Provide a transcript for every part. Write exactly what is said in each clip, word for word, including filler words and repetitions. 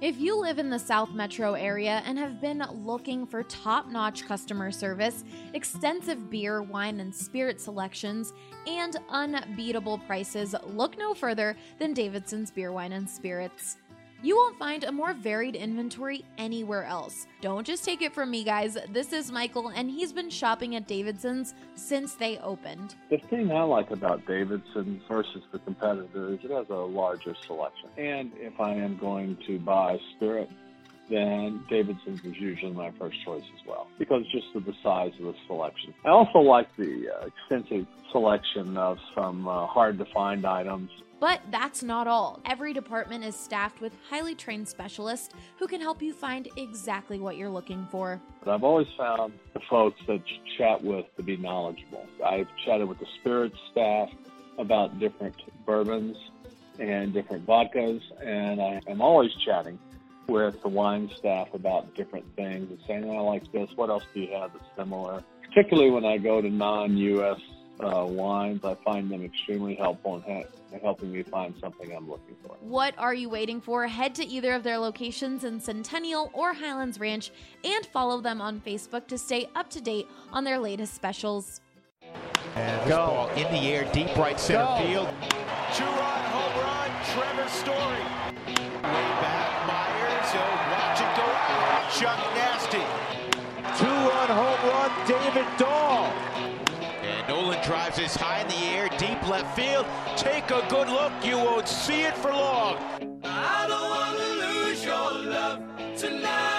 If you live in the South Metro area and have been looking for top-notch customer service, extensive beer, wine, and spirit selections, and unbeatable prices, look no further than Davidson's Beer, Wine, and Spirits. You won't find a more varied inventory anywhere else. Don't just take it from me, guys. This is Michael, and he's been shopping at Davidson's since they opened. The thing I like about Davidson's versus the competitor is it has a larger selection. And if I am going to buy spirit, then Davidson's is usually my first choice as well, because just of the size of the selection. I also like the uh, extensive selection of some uh, hard-to-find items. But that's not all. Every department is staffed with highly trained specialists who can help you find exactly what you're looking for. But I've always found the folks that you chat with to be knowledgeable. I've chatted with the spirits staff about different bourbons and different vodkas, and I am always chatting with the wine staff about different things and saying, oh, I like this, what else do you have that's similar? Particularly when I go to non-U S Uh, wines, I find them extremely helpful in ha- helping me find something I'm looking for. What are you waiting for? Head to either of their locations in Centennial or Highlands Ranch and follow them on Facebook to stay up to date on their latest specials. And this Go. ball in the air, deep right center Go. field. Two-run home run, Trevor Story. Way back, Myers, oh, watch it go out. Chuck Nasty. Two-run home run, David Dahl. And Nolan drives this high in the air, deep left field. Take a good look, you won't see it for long. I don't want to lose your love tonight.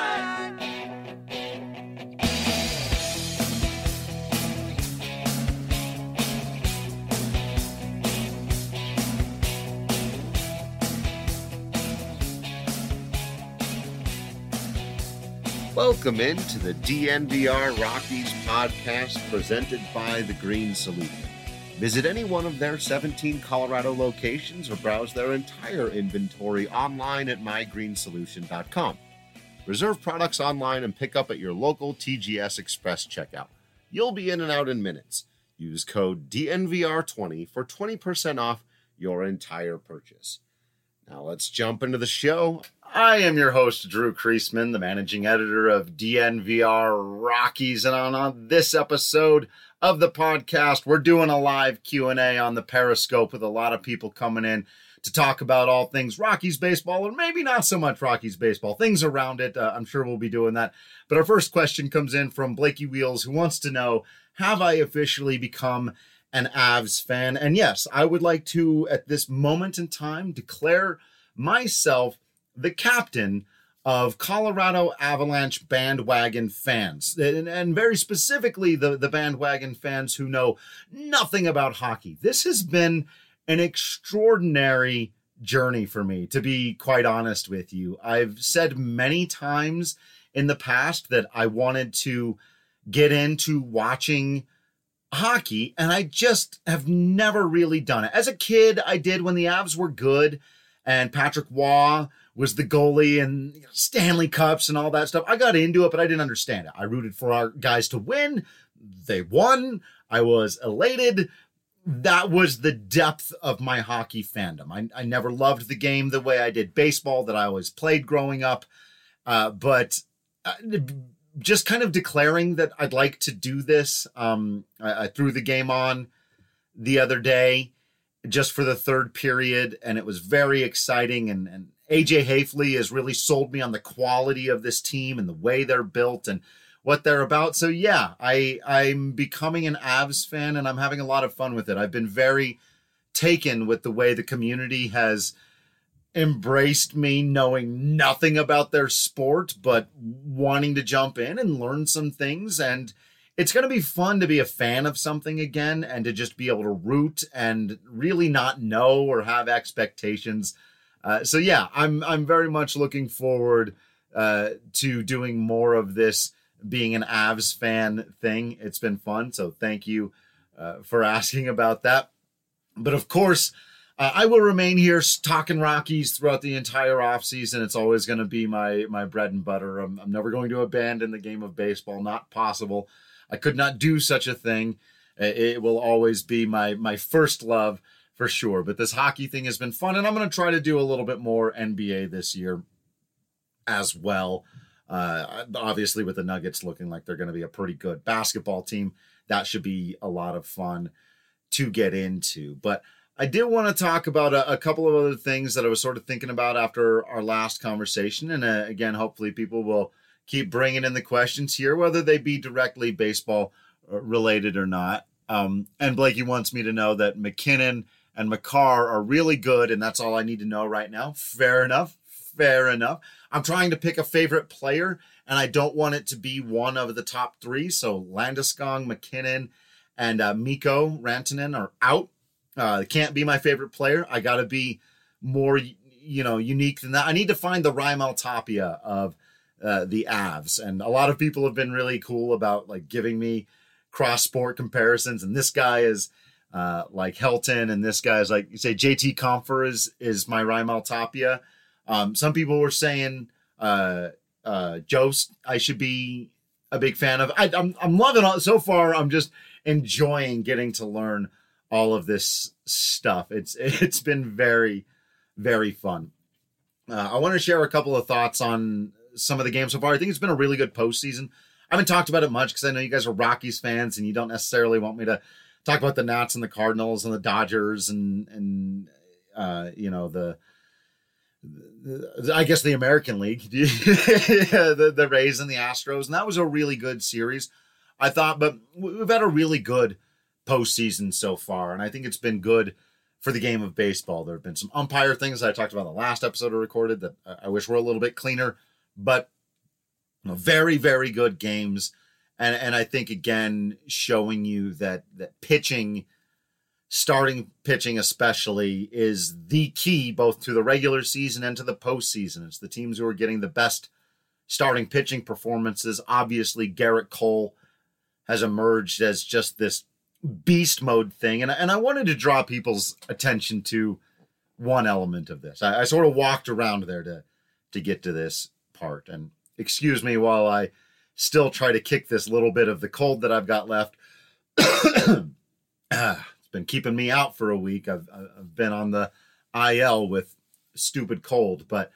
Welcome into the D N V R Rockies podcast presented by The Green Solution. Visit any one of their seventeen Colorado locations or browse their entire inventory online at my green solution dot com. Reserve products online and pick up at your local T G S Express checkout. You'll be in and out in minutes. Use code D N V R twenty for twenty percent off your entire purchase. Now let's jump into the show. I am your host, Drew Kreisman, the managing editor of D N V R Rockies. And on, on this episode of the podcast, we're doing a live Q and A on the Periscope with a lot of people coming in to talk about all things Rockies baseball, or maybe not so much Rockies baseball, things around it. Uh, I'm sure we'll be doing that. But our first question comes in from Blakey Wheels, who wants to know, have I officially become an Avs fan? And yes, I would like to, at this moment in time, declare myself the captain of Colorado Avalanche bandwagon fans, and, and very specifically the, the bandwagon fans who know nothing about hockey. This has been an extraordinary journey for me, to be quite honest with you. I've said many times in the past that I wanted to get into watching hockey, and I just have never really done it. As a kid, I did when the Avs were good, and Patrick Waugh was the goalie and you know, Stanley Cups and all that stuff. I got into it, but I didn't understand it. I rooted for our guys to win. They won. I was elated. That was the depth of my hockey fandom. I, I never loved the game the way I did baseball that I always played growing up. Uh, but uh, just kind of declaring that I'd like to do this. Um, I, I threw the game on the other day just for the third period, and it was very exciting. And, and A J Hafley has really sold me on the quality of this team and the way they're built and what they're about. So yeah, I, I'm becoming an Avs fan, and I'm having a lot of fun with it. I've been very taken with the way the community has embraced me, knowing nothing about their sport, but wanting to jump in and learn some things. And it's going to be fun to be a fan of something again and to just be able to root and really not know or have expectations. Uh, so yeah, I'm I'm very much looking forward uh, to doing more of this being an Avs fan thing. It's been fun. So thank you uh, for asking about that. But of course, uh, I will remain here talking Rockies throughout the entire offseason. It's always going to be my my bread and butter. I'm, I'm never going to abandon the game of baseball. Not possible. I could not do such a thing. It will always be my my first love for sure. But this hockey thing has been fun, and I'm going to try to do a little bit more N B A this year. as well. Uh, obviously, with the Nuggets looking like they're going to be a pretty good basketball team, that should be a lot of fun to get into. But I did want to talk about a, a couple of other things that I was sort of thinking about after our last conversation. And uh, again, hopefully people will keep bringing in the questions here, whether they be directly baseball related or not. Um, and Blakey wants me to know that McKinnon and Makar are really good, and that's all I need to know right now. Fair enough. Fair enough. I'm trying to pick a favorite player, and I don't want it to be one of the top three. So Landeskog, McKinnon, and uh, Mikko Rantanen are out. Uh, it can't be my favorite player. I got to be more, you know, unique than that. I need to find the Raimel Tapia of uh, the Avs, and a lot of people have been really cool about like giving me cross-sport comparisons. And this guy is uh, like Helton, and this guy is like, you say J T Compher is is my Raimel Tapia. Um, some people were saying uh, uh, Jost I should be a big fan of. I, I'm I'm loving it so far. I'm just enjoying getting to learn all of this stuff. It's it's been very, very fun. Uh, I want to share a couple of thoughts on some of the games so far. I think it's been a really good postseason. I haven't talked about it much because I know you guys are Rockies fans and you don't necessarily want me to talk about the Nats and the Cardinals and the Dodgers and and uh, you know the. I guess the American League, the, the Rays and the Astros. And that was a really good series, I thought. But we've had a really good postseason so far. And I think it's been good for the game of baseball. There have been some umpire things that I talked about in the last episode I recorded that I wish were a little bit cleaner. But you know, very, very good games. And, and I think, again, showing you that that pitching, starting pitching especially, is the key both to the regular season and to the postseason. It's the teams who are getting the best starting pitching performances. Obviously, Garrett Cole has emerged as just this beast mode thing. And, and I wanted to draw people's attention to one element of this. I, I sort of walked around there to, to get to this part. And excuse me while I still try to kick this little bit of the cold that I've got left. ah. Been keeping me out for a week. I've, I've been on the I L with stupid cold, but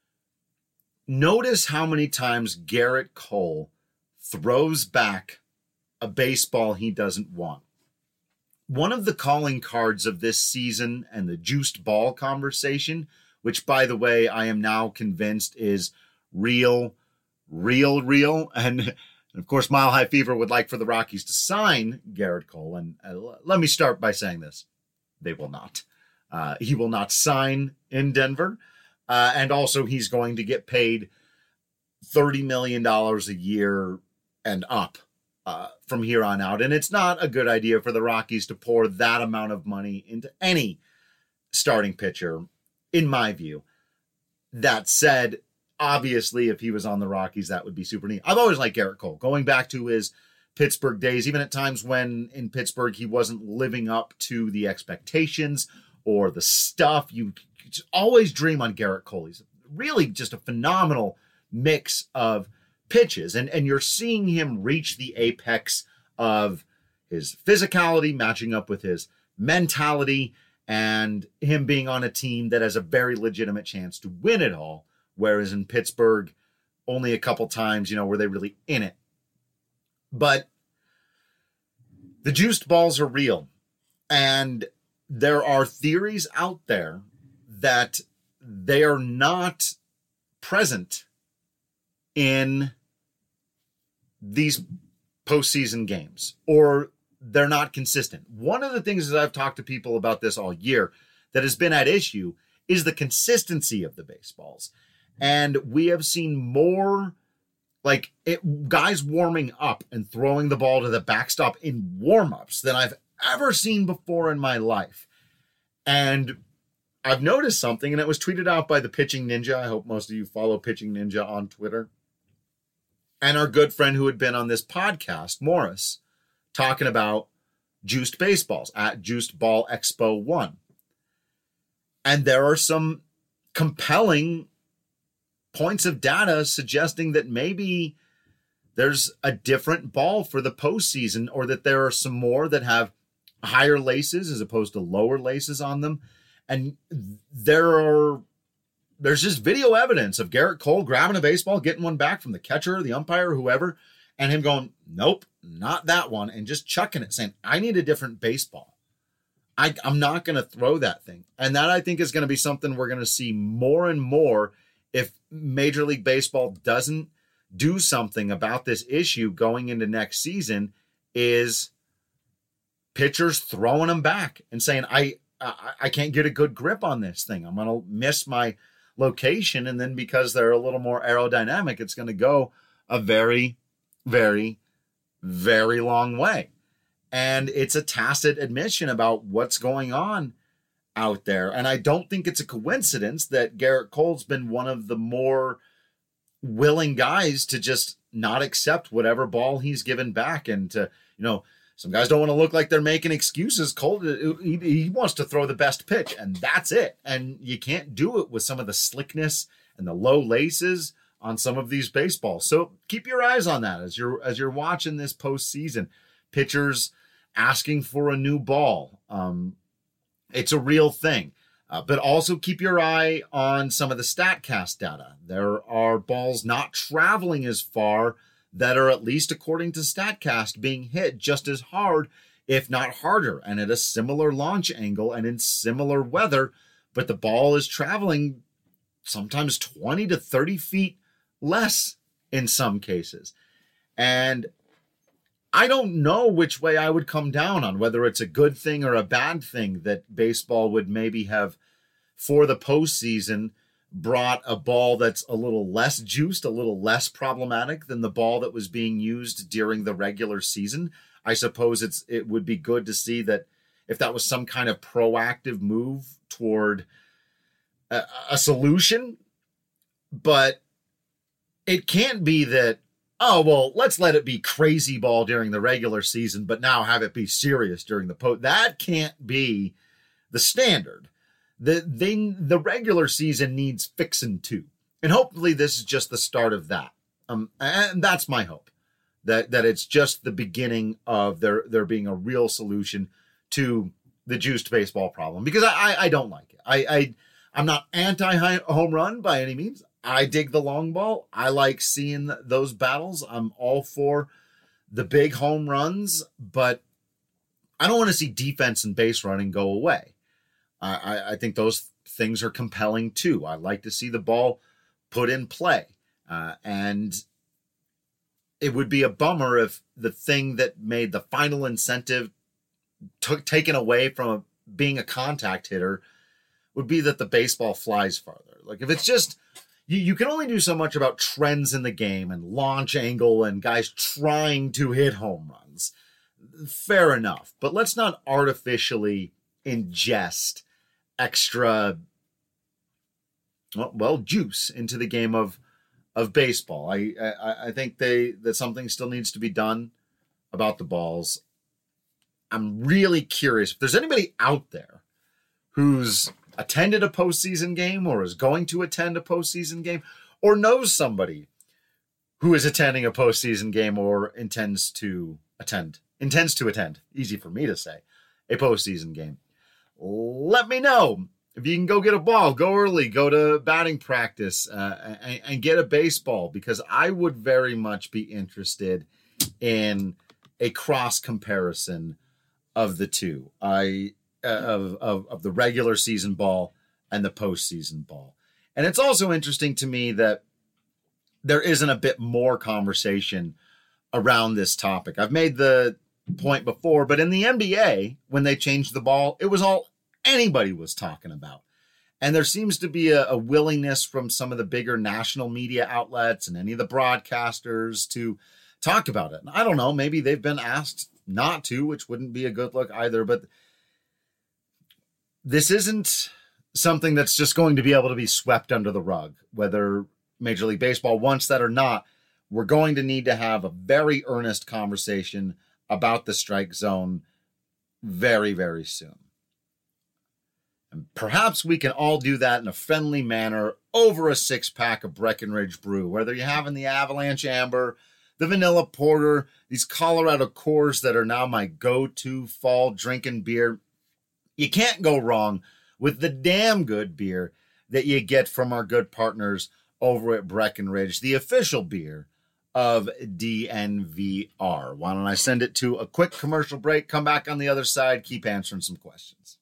notice how many times Garrett Cole throws back a baseball he doesn't want. One of the calling cards of this season and the juiced ball conversation, which by the way, I am now convinced is real, real, real. And And of course, Mile High Fever would like for the Rockies to sign Garrett Cole. And uh, let me start by saying this. They will not. Uh, he will not sign in Denver. Uh, and also, he's going to get paid thirty million dollars a year and up uh, from here on out. And it's not a good idea for the Rockies to pour that amount of money into any starting pitcher, in my view. That said, obviously, if he was on the Rockies, that would be super neat. I've always liked Garrett Cole, going back to his Pittsburgh days, even at times when in Pittsburgh he wasn't living up to the expectations or the stuff. You just always dream on Garrett Cole. He's really just a phenomenal mix of pitches. And, and you're seeing him reach the apex of his physicality, matching up with his mentality, and him being on a team that has a very legitimate chance to win it all. Whereas in Pittsburgh, only a couple times, you know, were they really in it. But the juiced balls are real. And there are theories out there that they are not present in these postseason games, or they're not consistent. One of the things that I've talked to people about this all year that has been at issue is the consistency of the baseballs. And we have seen more like it, guys warming up and throwing the ball to the backstop in warm-ups than I've ever seen before in my life. And I've noticed something, and it was tweeted out by the Pitching Ninja. I hope most of you follow Pitching Ninja on Twitter. And our good friend who had been on this podcast, Morris, talking about juiced baseballs at Juiced Ball Expo one. And there are some compelling points of data suggesting that maybe there's a different ball for the postseason, or that there are some more that have higher laces as opposed to lower laces on them. And there are there's just video evidence of Gerrit Cole grabbing a baseball, getting one back from the catcher, the umpire, whoever, and him going, nope, not that one, and just chucking it, saying, I need a different baseball. I, I'm not going to throw that thing. And that, I think, is going to be something we're going to see more and more if Major League Baseball doesn't do something about this issue going into next season, is pitchers throwing them back and saying, I, I, I can't get a good grip on this thing. I'm going to miss my location. And then because they're a little more aerodynamic, it's going to go a very, very, very long way. And it's a tacit admission about what's going on out there. And I don't think it's a coincidence that Gerrit Cole's been one of the more willing guys to just not accept whatever ball he's given back. And to, you know, some guys don't want to look like they're making excuses. Cole, he, he wants to throw the best pitch, and that's it. And you can't do it with some of the slickness and the low laces on some of these baseballs. So keep your eyes on that as you're, as you're watching this postseason. Pitchers asking for a new ball. Um, it's a real thing. Uh, but also keep your eye on some of the StatCast data. There are balls not traveling as far that are, at least according to StatCast, being hit just as hard, if not harder, and at a similar launch angle and in similar weather. But the ball is traveling sometimes twenty to thirty feet less in some cases. And I don't know which way I would come down on, whether it's a good thing or a bad thing that baseball would maybe have, for the postseason, brought a ball that's a little less juiced, a little less problematic than the ball that was being used during the regular season. I suppose it's it would be good to see that if that was some kind of proactive move toward a, a solution, but it can't be that, oh, well, let's let it be crazy ball during the regular season, but now have it be serious during the post. That can't be the standard. The, they, the regular season needs fixing too. And hopefully this is just the start of that. Um, and that's my hope, that, that it's just the beginning of there, there being a real solution to the juiced baseball problem, because I, I, I don't like it. I, I, I'm not anti-home run by any means. I dig the long ball. I like seeing those battles. I'm all for the big home runs, but I don't want to see defense and base running go away. I, I think those things are compelling too. I like to see the ball put in play. Uh, and it would be a bummer if the thing that made the final incentive took taken away from being a contact hitter would be that the baseball flies farther. Like if it's just, you, you can only do so much about trends in the game and launch angle and guys trying to hit home runs. Fair enough. But let's not artificially ingest extra, well, well, juice into the game of of baseball. I, I I think they that something still needs to be done about the balls. I'm really curious if there's anybody out there who's attended a postseason game or is going to attend a postseason game or knows somebody who is attending a postseason game or intends to attend, intends to attend, easy for me to say, a postseason game. Let me know. If you can go get a ball, go early, go to batting practice, uh, and, and get a baseball, because I would very much be interested in a cross comparison of the two, I uh, of, of of the regular season ball and the postseason ball. And it's also interesting to me that there isn't a bit more conversation around this topic. I've made the point before, but in the N B A, when they changed the ball, it was all anybody was talking about. And there seems to be a, a willingness from some of the bigger national media outlets and any of the broadcasters to talk about it. And I don't know, maybe they've been asked not to, which wouldn't be a good look either. But this isn't something that's just going to be able to be swept under the rug, whether Major League Baseball wants that or not. We're going to need to have a very earnest conversation about the strike zone very, very soon. And perhaps we can all do that in a friendly manner over a six-pack of Breckenridge Brew, whether you're having the Avalanche Amber, the Vanilla Porter, these Colorado Cores that are now my go-to fall drinking beer. You can't go wrong with the damn good beer that you get from our good partners over at Breckenridge, the official beer of D N V R. Why don't I send it to a quick commercial break, come back on the other side, keep answering some questions.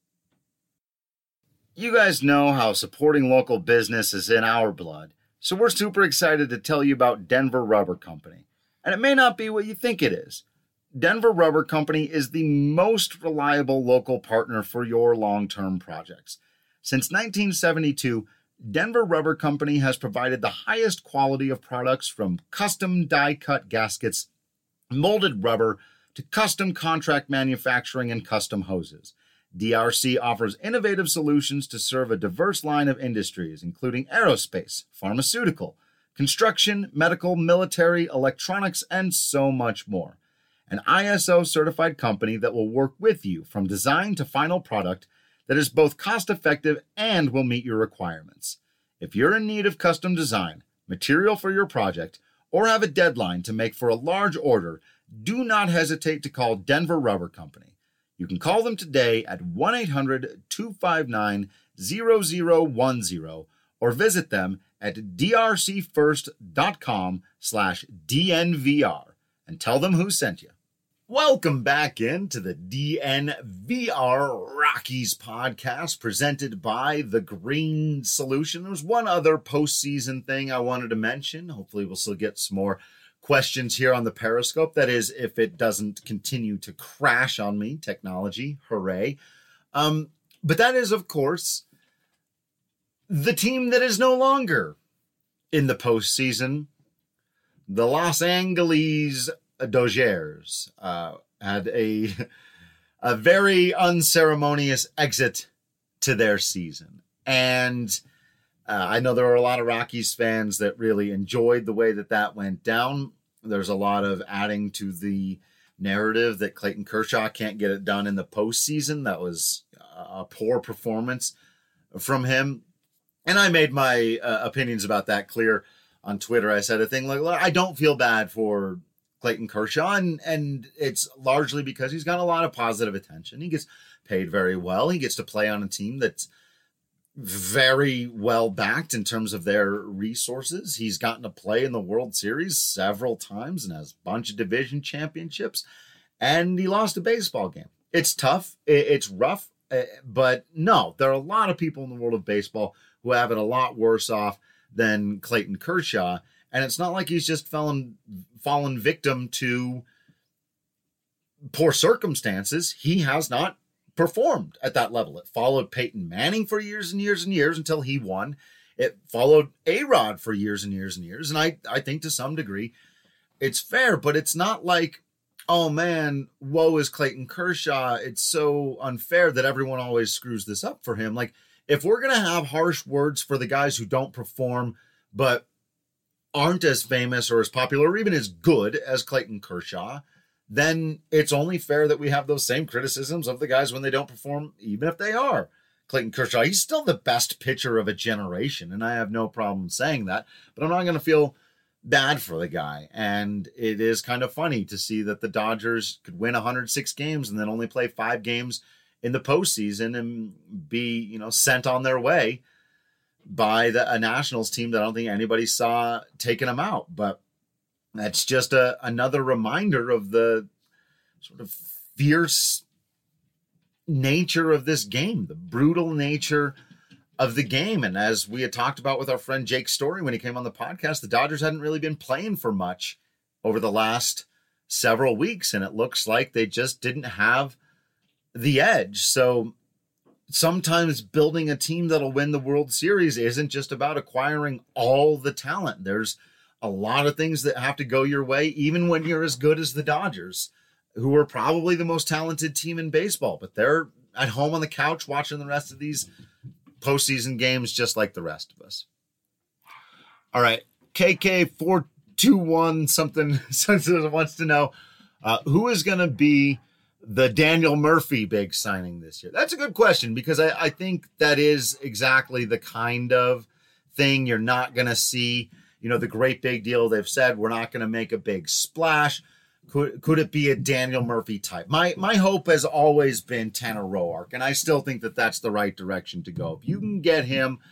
You guys know how supporting local business is in our blood, so we're super excited to tell you about Denver Rubber Company. And it may not be what you think it is. Denver Rubber Company is the most reliable local partner for your long-term projects. Since nineteen seventy-two, Denver Rubber Company has provided the highest quality of products from custom die-cut gaskets, molded rubber, to custom contract manufacturing and custom hoses. D R C offers innovative solutions to serve a diverse line of industries, including aerospace, pharmaceutical, construction, medical, military, electronics, and so much more. An I S O-certified company that will work with you from design to final product that is both cost-effective and will meet your requirements. If you're in need of custom design, material for your project, or have a deadline to make for a large order, do not hesitate to call Denver Rubber Company. You can call them today at one eight hundred two five nine zero zero one zero or visit them at d r c first dot com slash D N V R and tell them who sent you. Welcome back into the D N V R Rockies podcast presented by The Green Solution. There's one other postseason thing I wanted to mention. Hopefully we'll still get some more questions here on the Periscope. That is, if it doesn't continue to crash on me. Technology, hooray. Um, but that is, of course, the team that is no longer in the postseason. The Los Angeles Dodgers uh, had a a very unceremonious exit to their season. And uh, I know there were a lot of Rockies fans that really enjoyed the way that that went down. There's a lot of adding to the narrative that Clayton Kershaw can't get it done in the postseason. That was a poor performance from him. And I made my uh, opinions about that clear on Twitter. I said a thing like, I don't feel bad for Clayton Kershaw, and, and it's largely because he's got a lot of positive attention. He gets paid very well. He gets to play on a team that's very well backed in terms of their resources. He's gotten to play in the World Series several times and has a bunch of division championships, and he lost a baseball game. It's tough. It's rough, but no, there are a lot of people in the world of baseball who have it a lot worse off than Clayton Kershaw. And it's not like he's just fallen, fallen victim to poor circumstances. He has not performed at that level. It followed Peyton Manning for years and years and years until he won. It followed A-Rod for years and years and years. And I, I think to some degree it's fair, but it's not like, oh man, woe is Clayton Kershaw. It's so unfair that everyone always screws this up for him. Like, if we're going to have harsh words for the guys who don't perform, but aren't as famous or as popular or even as good as Clayton Kershaw, then it's only fair that we have those same criticisms of the guys when they don't perform, even if they are Clayton Kershaw. He's still the best pitcher of a generation, and I have no problem saying that, but I'm not going to feel bad for the guy. And it is kind of funny to see that the Dodgers could win one hundred six games and then only play five games in the postseason and be, you know, sent on their way by the a Nationals team that I don't think anybody saw taking them out. But that's just a another reminder of the sort of fierce nature of this game, the brutal nature of the game. And as we had talked about with our friend Jake Story when he came on the podcast, the Dodgers hadn't really been playing for much over the last several weeks, and it looks like they just didn't have the edge. So sometimes building a team that'll win the World Series isn't just about acquiring all the talent. There's a lot of things that have to go your way, even when you're as good as the Dodgers, who are probably the most talented team in baseball, but they're at home on the couch watching the rest of these postseason games just like the rest of us. All right, K K four two one something, something wants to know, uh, who is going to be the Daniel Murphy big signing this year? That's a good question, because I, I think that is exactly the kind of thing you're not going to see. You know, the great big deal. They've said we're not going to make a big splash. Could could it be a Daniel Murphy type? My my hope has always been Tanner Roark, and I still think that that's the right direction to go. If you can get him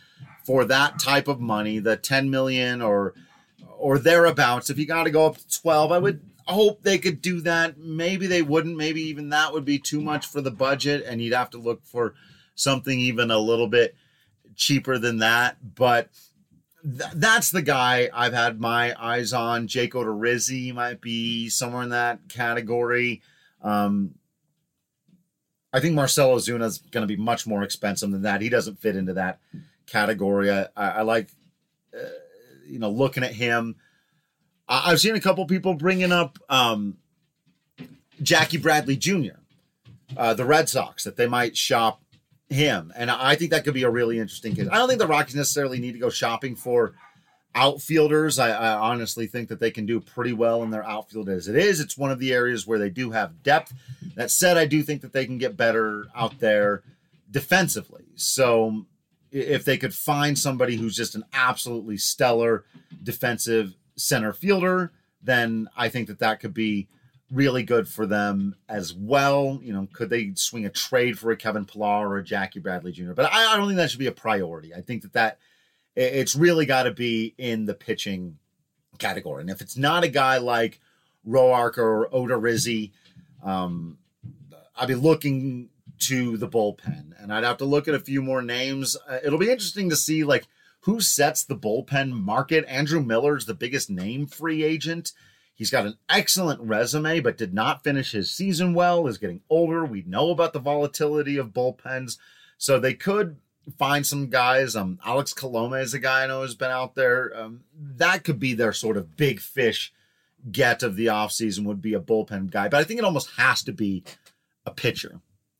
for that type of money, the ten million or or thereabouts. If you got to go up to twelve, I would hope they could do that. Maybe they wouldn't. Maybe even that would be too much for the budget, and you'd have to look for something even a little bit cheaper than that. But th- that's the guy I've had my eyes on. Jake Odorizzi might be somewhere in that category. Um, I think Marcelo Zuna is going to be much more expensive than that. He doesn't fit into that category. I, I, I like, uh, you know, looking at him. I, I've seen a couple people bringing up um, Jackie Bradley Junior, uh, the Red Sox, that they might shop him. And I think that could be a really interesting case. I don't think the Rockies necessarily need to go shopping for outfielders. I, I honestly think that they can do pretty well in their outfield as it is. It's one of the areas where they do have depth. That said, I do think that they can get better out there defensively. So if they could find somebody who's just an absolutely stellar defensive center fielder, then I think that that could be really good for them as well. You know, could they swing a trade for a Kevin Pillar or a Jackie Bradley Junior? But I, I don't think that should be a priority. I think that that it's really got to be in the pitching category. And if it's not a guy like Roark or Odorizzi, um, I'd be looking to the bullpen. And I'd have to look at a few more names. Uh, it'll be interesting to see, like, who sets the bullpen market. Andrew Miller's the biggest name free agent. He's got an excellent resume, but did not finish his season well, is getting older. We know about the volatility of bullpens. So they could find some guys. Um, Alex Coloma is a guy I know has been out there. Um, that could be their sort of big fish get of the offseason, would be a bullpen guy. But I think it almost has to be a pitcher.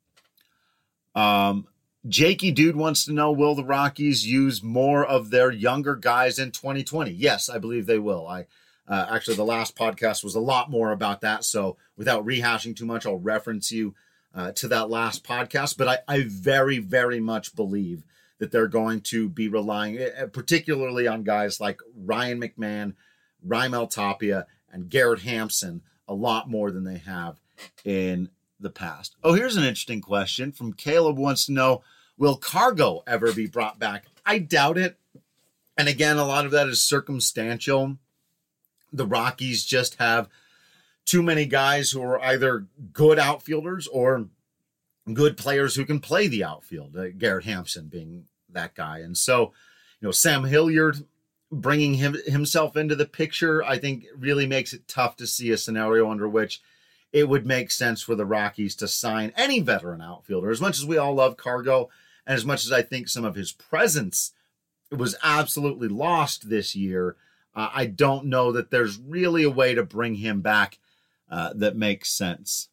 Um, Jakey Dude wants to know, will the Rockies use more of their younger guys in twenty twenty? Yes, I believe they will. I uh, actually, the last podcast was a lot more about that. So without rehashing too much, I'll reference you Uh, to that last podcast, but I, I very, very much believe that they're going to be relying uh, particularly on guys like Ryan McMahon, Raimel Tapia, and Garrett Hampson a lot more than they have in the past. Oh, here's an interesting question from Caleb. Wants to know, will Cargo ever be brought back? I doubt it. And again, a lot of that is circumstantial. The Rockies just have too many guys who are either good outfielders or good players who can play the outfield, uh, Garrett Hampson being that guy. And so, you know, Sam Hilliard bringing him himself into the picture, I think really makes it tough to see a scenario under which it would make sense for the Rockies to sign any veteran outfielder. As much as we all love Cargo, and as much as I think some of his presence was absolutely lost this year, uh, I don't know that there's really a way to bring him back Uh, that makes sense.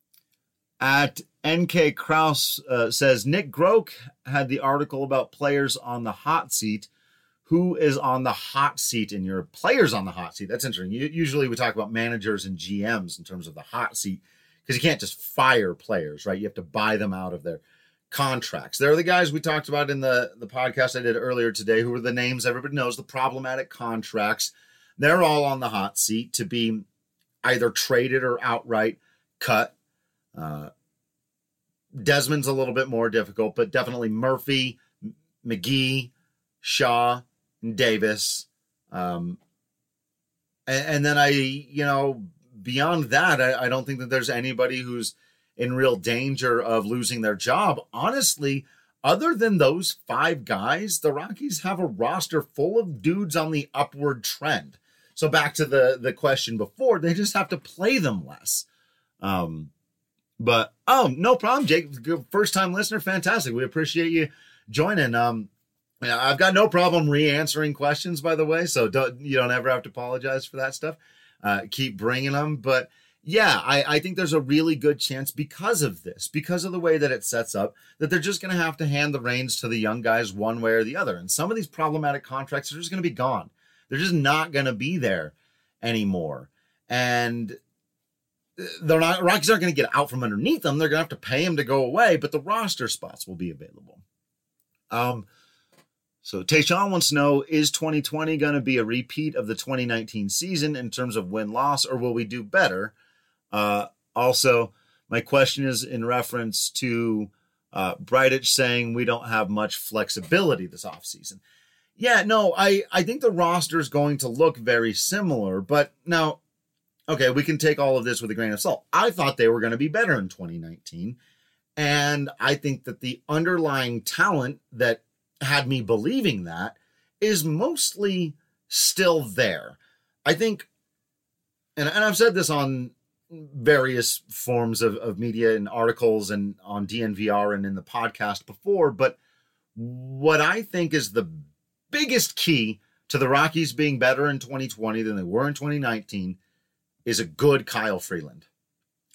At N K Kraus uh, says, Nick Groke had the article about players on the hot seat. Who is on the hot seat in your players on the hot seat? That's interesting. You, usually we talk about managers and G Ms in terms of the hot seat, because you can't just fire players, right? You have to buy them out of their contracts. They're the guys we talked about in the, the podcast I did earlier today, who are the names everybody knows, the problematic contracts. They're all on the hot seat to be either traded or outright cut. Uh, Desmond's a little bit more difficult, but definitely Murphy, McGee, Shaw, and Davis. Um, and, and then I, you know, beyond that, I, I don't think that there's anybody who's in real danger of losing their job. Honestly, other than those five guys, the Rockies have a roster full of dudes on the upward trend. So back to the, the question before, they just have to play them less. Um, but, oh, no problem, Jake. First-time listener, fantastic. We appreciate you joining. Um, I've got no problem re-answering questions, by the way, so don't, you don't ever have to apologize for that stuff. Uh, keep bringing them. But, yeah, I, I think there's a really good chance because of this, because of the way that it sets up, that they're just going to have to hand the reins to the young guys one way or the other. And some of these problematic contracts are just going to be gone. They're just not going to be there anymore. And they're not, Rockies aren't going to get out from underneath them. They're going to have to pay them to go away, but the roster spots will be available. Um, so Tayshawn wants to know, is twenty twenty going to be a repeat of the twenty nineteen season in terms of win-loss, or will we do better? Uh, also, my question is in reference to uh, Bridich saying we don't have much flexibility this offseason. Yeah, no, I, I think the roster is going to look very similar, but now, okay, we can take all of this with a grain of salt. I thought they were going to be better in twenty nineteen, and I think that the underlying talent that had me believing that is mostly still there. I think, and, and I've said this on various forms of, of media and articles and on D N V R and in the podcast before, but what I think is the biggest key to the Rockies being better in twenty twenty than they were in twenty nineteen is a good Kyle Freeland.